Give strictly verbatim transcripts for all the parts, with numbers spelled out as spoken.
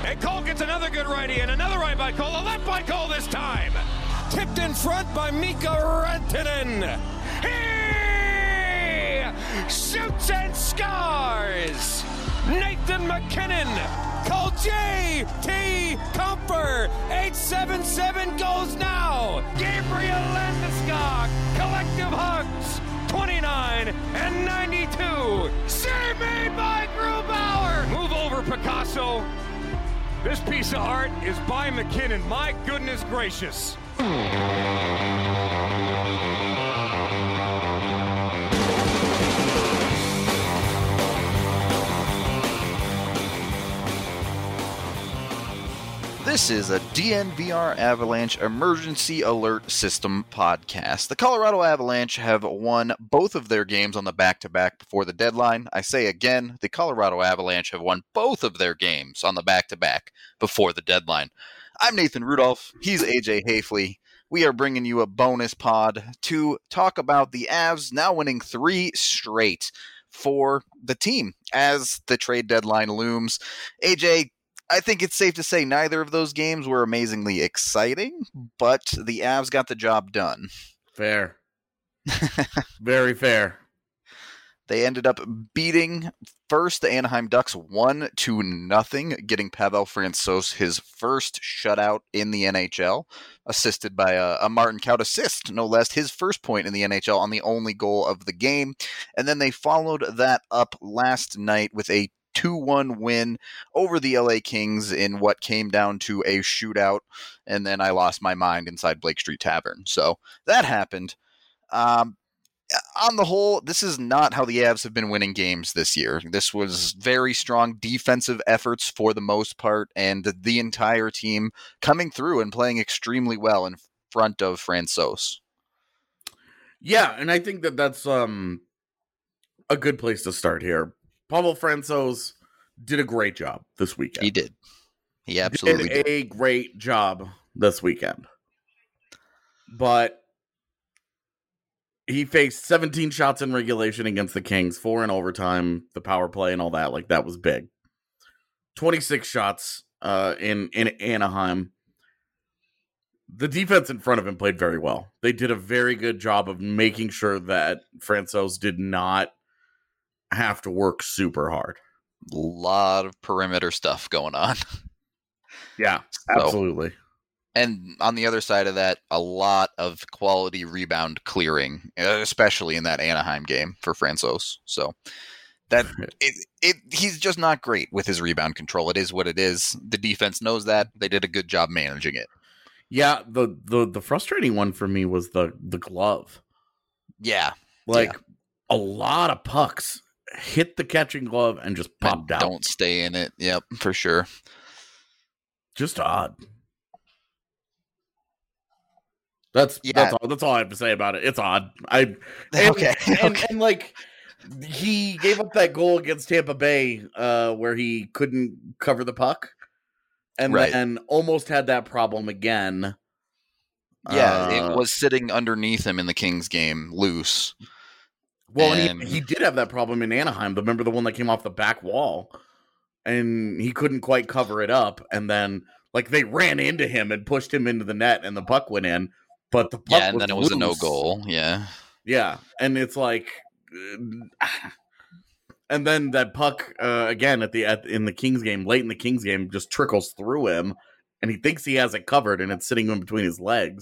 And Cole gets another good righty, and another right by Cole. A left by Cole this time. Tipped in front by Mika Rantanen. He shoots and scores. Nathan MacKinnon. Call J T Comfer. eight seven seven goes now. Gabriel Landeskog. Collective hugs. twenty-nine and ninety-two. Save made by Grubauer. Move over, Picasso. This piece of art is by MacKinnon. My goodness gracious. This is a D N V R Avalanche Emergency Alert System podcast. The Colorado Avalanche have won both of their games on the back-to-back before the deadline. I say again, the Colorado Avalanche have won both of their games on the back-to-back before the deadline. I'm Nathan Rudolph. He's A J Hafley. We are bringing you a bonus pod to talk about the Avs now winning three straight for the team as the trade deadline looms. A J, I think it's safe to say neither of those games were amazingly exciting, but the Avs got the job done. Fair. Very fair. They ended up beating first the Anaheim Ducks one to nothing, getting Pavel Francouz his first shutout in the N H L, assisted by a, a Martin Kaut assist, no less, his first point in the N H L on the only goal of the game. And then they followed that up last night with a two one win over the L A Kings in what came down to a shootout, and then I lost my mind inside Blake Street Tavern. So that happened. Um, on the whole, this is not how the Avs have been winning games this year. This was very strong defensive efforts for the most part, and the entire team coming through and playing extremely well in front of Francouz. Yeah, and I think that that's um, a good place to start here. Pavel Francouz did a great job this weekend. He did. He absolutely did. did. a great job this weekend. But he faced seventeen shots in regulation against the Kings, four in overtime, the power play and all that. Like, that was big. twenty-six shots uh, in, in Anaheim. The defense in front of him played very well. They did a very good job of making sure that Francouz did not have to work super hard. A lot of perimeter stuff going on. Yeah, so, absolutely. And on the other side of that, a lot of quality rebound clearing, especially in that Anaheim game for Francouz. So that it, it he's just not great with his rebound control. It is what it is. The defense knows that. They did a good job managing it. Yeah, the the, the frustrating one for me was the, the glove. Yeah. Like, yeah. a lot of pucks hit the catching glove and just popped and out. Don't stay in it. Yep, for sure. Just odd. That's yeah. that's all. That's all I have to say about it. It's odd. I and, okay. And, okay. and like he gave up that goal against Tampa Bay, uh, where he couldn't cover the puck, and right. then almost had that problem again. Yeah, uh, it was sitting underneath him in the Kings game, loose. Well, and, and he, he did have that problem in Anaheim. Remember the one that came off the back wall, and he couldn't quite cover it up, and then like they ran into him and pushed him into the net, and the puck went in. But the puck yeah, and was then it was loose. a no goal. Yeah, yeah, and it's like, uh, and then that puck uh, again at the at, in the Kings game, late in the Kings game, just trickles through him, and he thinks he has it covered, and it's sitting in between his legs.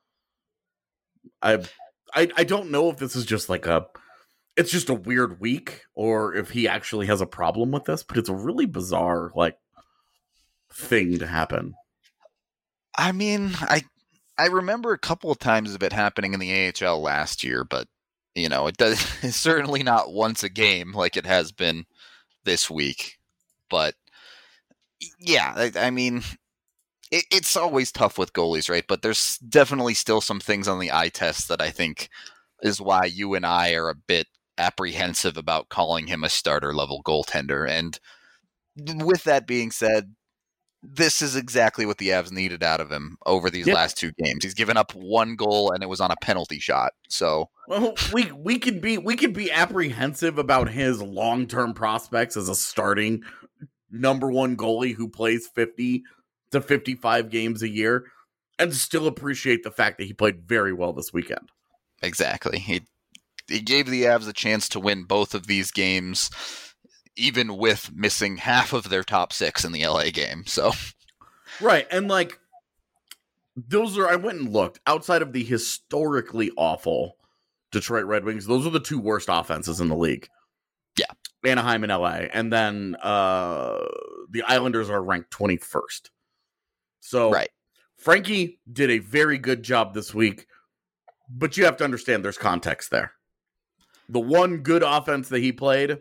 I, I, I don't know if this is just like a, it's just a weird week, or if he actually has a problem with this. But it's a really bizarre like thing to happen. I mean, I. I remember a couple of times of it happening in the A H L last year, but you know, it does it's certainly not once a game like it has been this week. But yeah, I, I mean, it, it's always tough with goalies, right? But there's definitely still some things on the eye test that I think is why you and I are a bit apprehensive about calling him a starter level goaltender. And with that being said, this is exactly what the Avs needed out of him over these yeah. last two games. He's given up one goal, and it was on a penalty shot. So, well, we we could be we could be apprehensive about his long term prospects as a starting number one goalie who plays fifty to fifty-five games a year and still appreciate the fact that he played very well this weekend. Exactly. He, he gave the Avs a chance to win both of these games, even with missing half of their top six in the L A game. So, right. And like, those are, I went and looked outside of the historically awful Detroit Red Wings. Those are the two worst offenses in the league. Yeah. Anaheim and L A. And then uh, the Islanders are ranked twenty-first. So right. Frankie did a very good job this week, but you have to understand there's context there. The one good offense that he played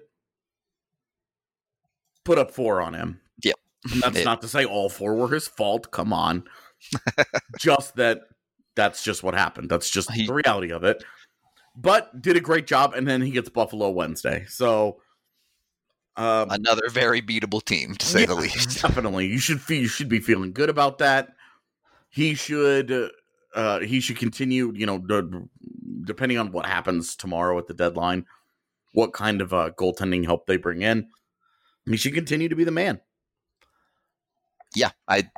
put up four on him. Yep. And that's it, not to say all four were his fault. Come on. Just that that's just what happened. That's just he, the reality of it. But did a great job, and then he gets Buffalo Wednesday. So um, another very beatable team, to say yeah, the least. Definitely, you should feel, you should be feeling good about that. He should uh, he should continue. You know, d- depending on what happens tomorrow at the deadline, what kind of uh, goaltending help they bring in, he should continue to be the man. Yeah, I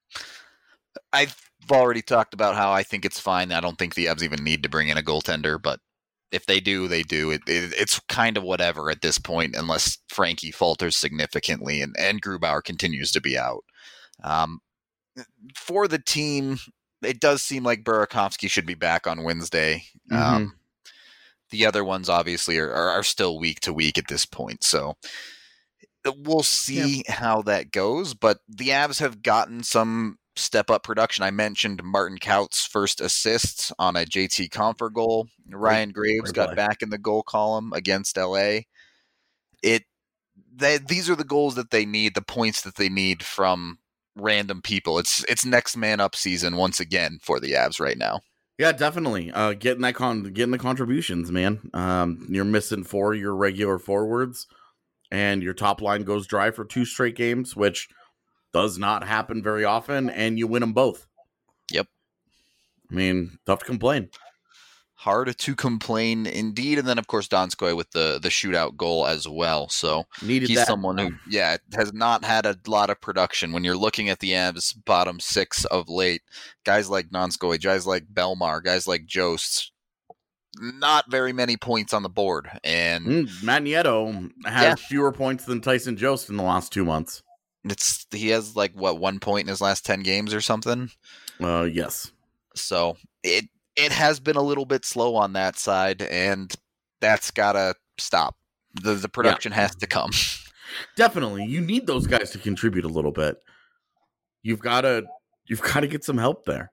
I've already talked about how I think it's fine. I don't think the Avs even need to bring in a goaltender, but if they do, they do. It, it, it's kind of whatever at this point, unless Frankie falters significantly and, and Grubauer continues to be out. Um, for the team, it does seem like Burakovsky should be back on Wednesday. Mm-hmm. Um, the other ones obviously are, are, are still week to week at this point, so we'll see yeah. how that goes. But the Avs have gotten some step up production. I mentioned Martin Kaut's first assists on a J T Compher goal. Ryan Graves got back in the goal column against L A. It they, these are the goals that they need, the points that they need from random people. It's it's next man up season once again for the Avs right now. Yeah, definitely. Uh, getting that con getting the contributions, man. Um, you're missing four your regular forwards, and your top line goes dry for two straight games, which does not happen very often, and you win them both. Yep. I mean, tough to complain. Hard to complain indeed. And then, of course, Donskoy with the, the shootout goal as well. So Needed he's that. someone who, yeah, has not had a lot of production. When you're looking at the Avs bottom six of late, guys like Donskoy, guys like Belmar, guys like Jost, not very many points on the board. And mm, Matt Nieto has yeah. fewer points than Tyson Jost in the last two months. It's he has like what one point in his last ten games or something. Uh, yes. So it it has been a little bit slow on that side, and that's gotta stop. The the production yeah. has to come. Definitely, you need those guys to contribute a little bit. You've gotta you've gotta get some help there.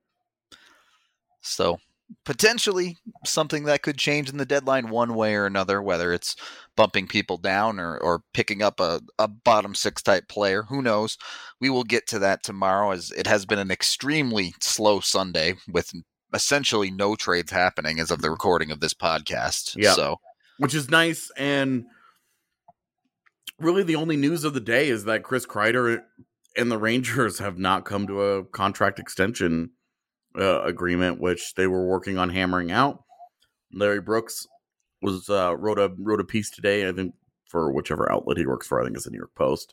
So potentially something that could change in the deadline one way or another, whether it's bumping people down or, or picking up a, a bottom six type player. Who knows? We will get to that tomorrow, as it has been an extremely slow Sunday with essentially no trades happening as of the recording of this podcast. Yeah. So, which is nice. And really the only news of the day is that Chris Kreider and the Rangers have not come to a contract extension Uh, agreement, which they were working on hammering out. Larry Brooks was uh, wrote a wrote a piece today, I think, for whichever outlet he works for. I think it's the New York Post.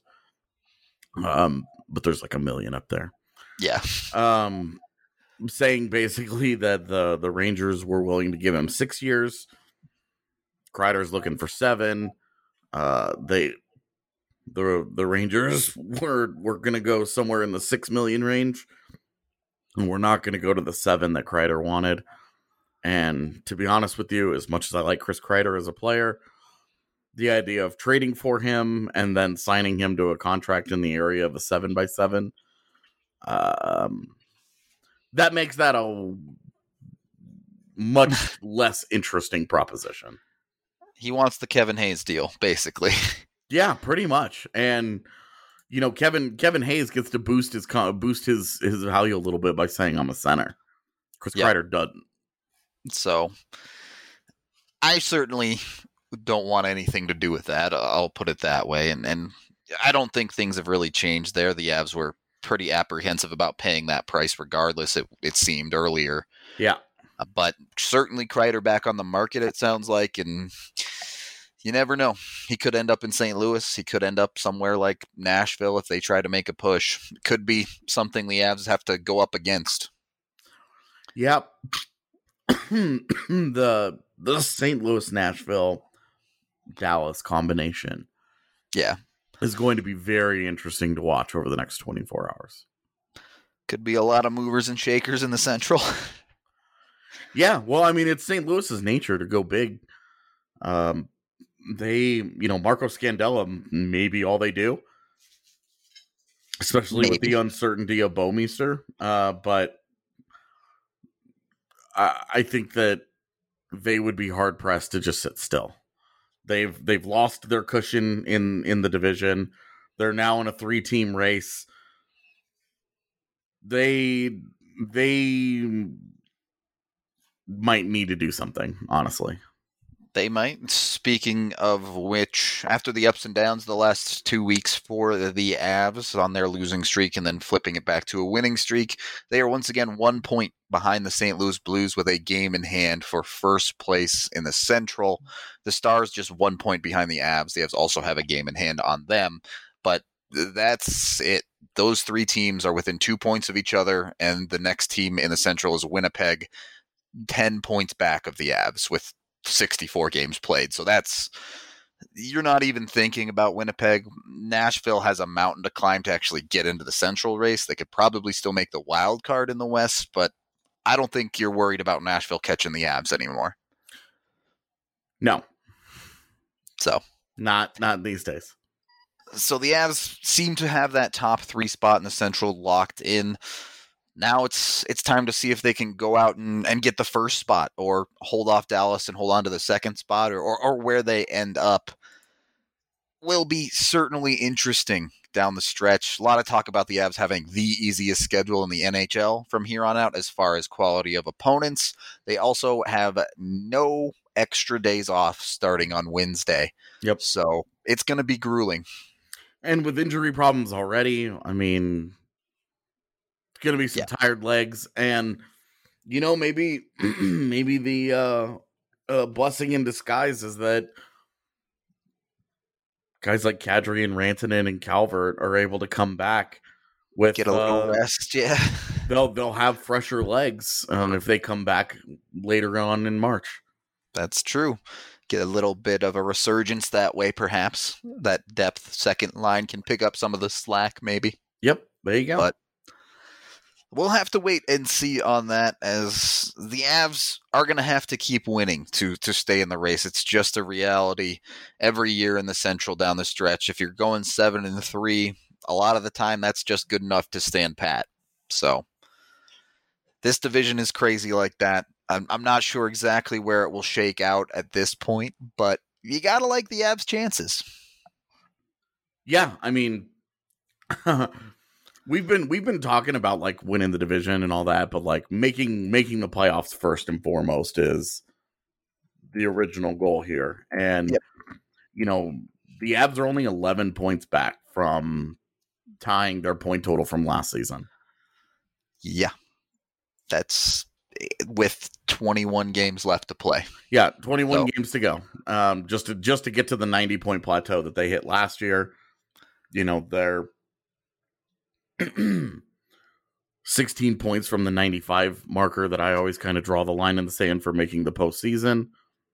Um, but there's like a million up there. Yeah. Um, saying basically that the the Rangers were willing to give him six years. Kreider's looking for seven. Uh, they the the Rangers were were gonna go somewhere in the six million range. And we're not going to go to the seven that Kreider wanted. And to be honest with you, as much as I like Chris Kreider as a player, the idea of trading for him and then signing him to a contract in the area of a seven by seven, um, that makes that a much less interesting proposition. He wants the Kevin Hayes deal, basically. Yeah, pretty much. And you know, Kevin Kevin Hayes gets to boost his boost his his value a little bit by saying I'm a center. Chris yep. Kreider doesn't. So I certainly don't want anything to do with that. I'll put it that way. And and I don't think things have really changed there. The Avs were pretty apprehensive about paying that price regardless, it, it seemed earlier. Yeah. Uh, but certainly Kreider back on the market, it sounds like. And You never know. He could end up in Saint Louis. He could end up somewhere like Nashville if they try to make a push. It could be something the Avs have to go up against. Yep. the the Saint Louis, Nashville, Dallas combination. Yeah. Is going to be very interesting to watch over the next twenty-four hours. Could be a lot of movers and shakers in the Central. Yeah, well, I mean, it's Saint Louis's nature to go big. Um, they, you know, Marco Scandella may be all they do, especially Maybe. with the uncertainty of Bouwmeester. Uh, but I, I think that they would be hard pressed to just sit still. They've they've lost their cushion in, in the division. They're now in a three team race. They they might need to do something, honestly. They might. Speaking of which, after the ups and downs the last two weeks for the Avs on their losing streak and then flipping it back to a winning streak, they are once again one point behind the Saint Louis Blues with a game in hand for first place in the Central. The Stars just one point behind the Avs. The Avs also have a game in hand on them, but that's it. Those three teams are within two points of each other, and the next team in the Central is Winnipeg, ten points back of the Avs with sixty-four games played. So that's, you're not even thinking about Winnipeg. Nashville has a mountain to climb to actually get into the Central race. They could probably still make the wild card in the West, but I don't think you're worried about Nashville catching the Avs anymore. No. So. Not, not these days. So the Avs seem to have that top three spot in the Central locked in. Now it's it's time to see if they can go out and, and get the first spot or hold off Dallas and hold on to the second spot, or, or, or where they end up will be certainly interesting down the stretch. A lot of talk about the Avs having the easiest schedule in the N H L from here on out as far as quality of opponents. They also have no extra days off starting on Wednesday. Yep. So it's going to be grueling. And with injury problems already, I mean, it's going to be some yeah. tired legs. And, you know, maybe maybe the uh, uh, blessing in disguise is that guys like Kadri and Rantanen and Calvert are able to come back with get a little uh, rest. Yeah, they'll they'll have fresher legs um, if they come back later on in March. That's true. Get a little bit of a resurgence that way, perhaps. That depth second line can pick up some of the slack, maybe. Yep, there you go. But we'll have to wait and see on that, as the Avs are going to have to keep winning to to stay in the race. It's just a reality every year in the Central down the stretch. If you're going seven and three, a lot of the time that's just good enough to stand pat. So this division is crazy like that. I'm, I'm not sure exactly where it will shake out at this point, but you got to like the Avs' chances. Yeah, I mean, we've been we've been talking about like winning the division and all that, but like making making the playoffs first and foremost is the original goal here. And yep. you know, the Avs are only eleven points back from tying their point total from last season. Yeah, that's with twenty-one games left to play. Yeah, twenty-one so. games to go. Um, just to just to get to the ninety point plateau that they hit last year. You know, they're sixteen points from the ninety-five marker that I always kind of draw the line in the sand for making the postseason.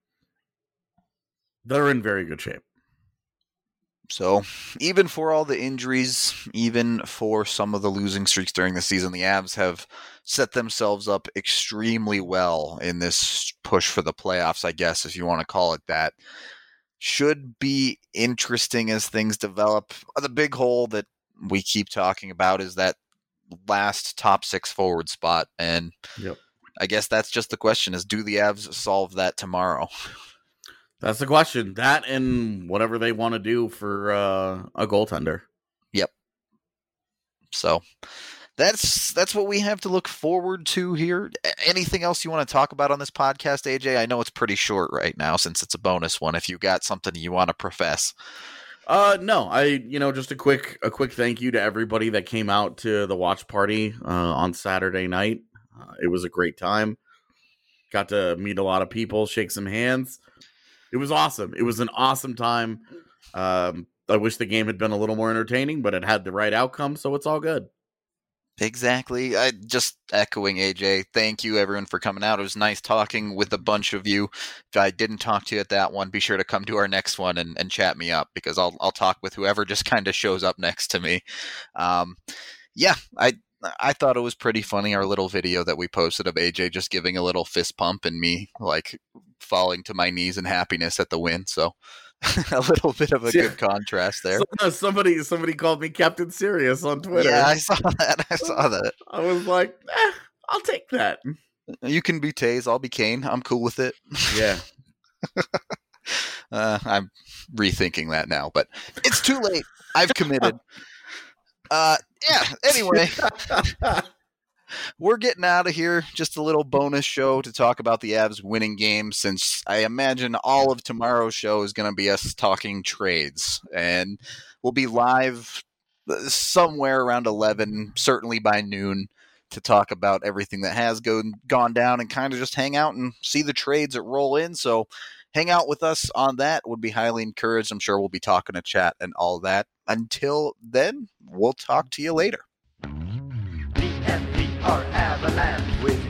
They're in very good shape. So even for all the injuries, even for some of the losing streaks during the season, the Avs have set themselves up extremely well in this push for the playoffs, I guess, if you want to call it that. Should be interesting as things develop. The big hole that we keep talking about is that last top six forward spot. And yep. I guess that's just the question is, do the Avs solve that tomorrow? That's the question. That and whatever they want to do for uh, a goaltender. Yep. So that's that's what we have to look forward to here. Anything else you want to talk about on this podcast, A J? I know it's pretty short right now since it's a bonus one. If you got something you want to profess. Uh, no, I, you know, just a quick, a quick thank you to everybody that came out to the watch party uh, on Saturday night. Uh, it was a great time. Got to meet a lot of people, shake some hands. It was awesome. It was an awesome time. Um, I wish the game had been a little more entertaining, but it had the right outcome, so it's all good. Exactly. I just echoing A J. Thank you, everyone, for coming out. It was nice talking with a bunch of you. If I didn't talk to you at that one, be sure to come to our next one and, and chat me up, because I'll I'll talk with whoever just kind of shows up next to me. Um, yeah, I I thought it was pretty funny, our little video that we posted of A J just giving a little fist pump and me like falling to my knees in happiness at the win. So a little bit of a yeah. good contrast there. So, somebody somebody called me Captain Serious on Twitter. Yeah, I saw that. I saw that. I was like, eh, I'll take that. You can be Taze, I'll be Kane. I'm cool with it. Yeah. uh, I'm rethinking that now, but it's too late. I've committed. Uh, yeah, anyway. We're getting out of here. Just a little bonus show to talk about the Avs winning games, since I imagine all of tomorrow's show is going to be us talking trades. And we'll be live somewhere around eleven, certainly by noon, to talk about everything that has go, gone down and kind of just hang out and see the trades that roll in. So hang out with us on that. Would be highly encouraged. I'm sure we'll be talking to chat and all that. Until then, we'll talk to you later. Our avalanche with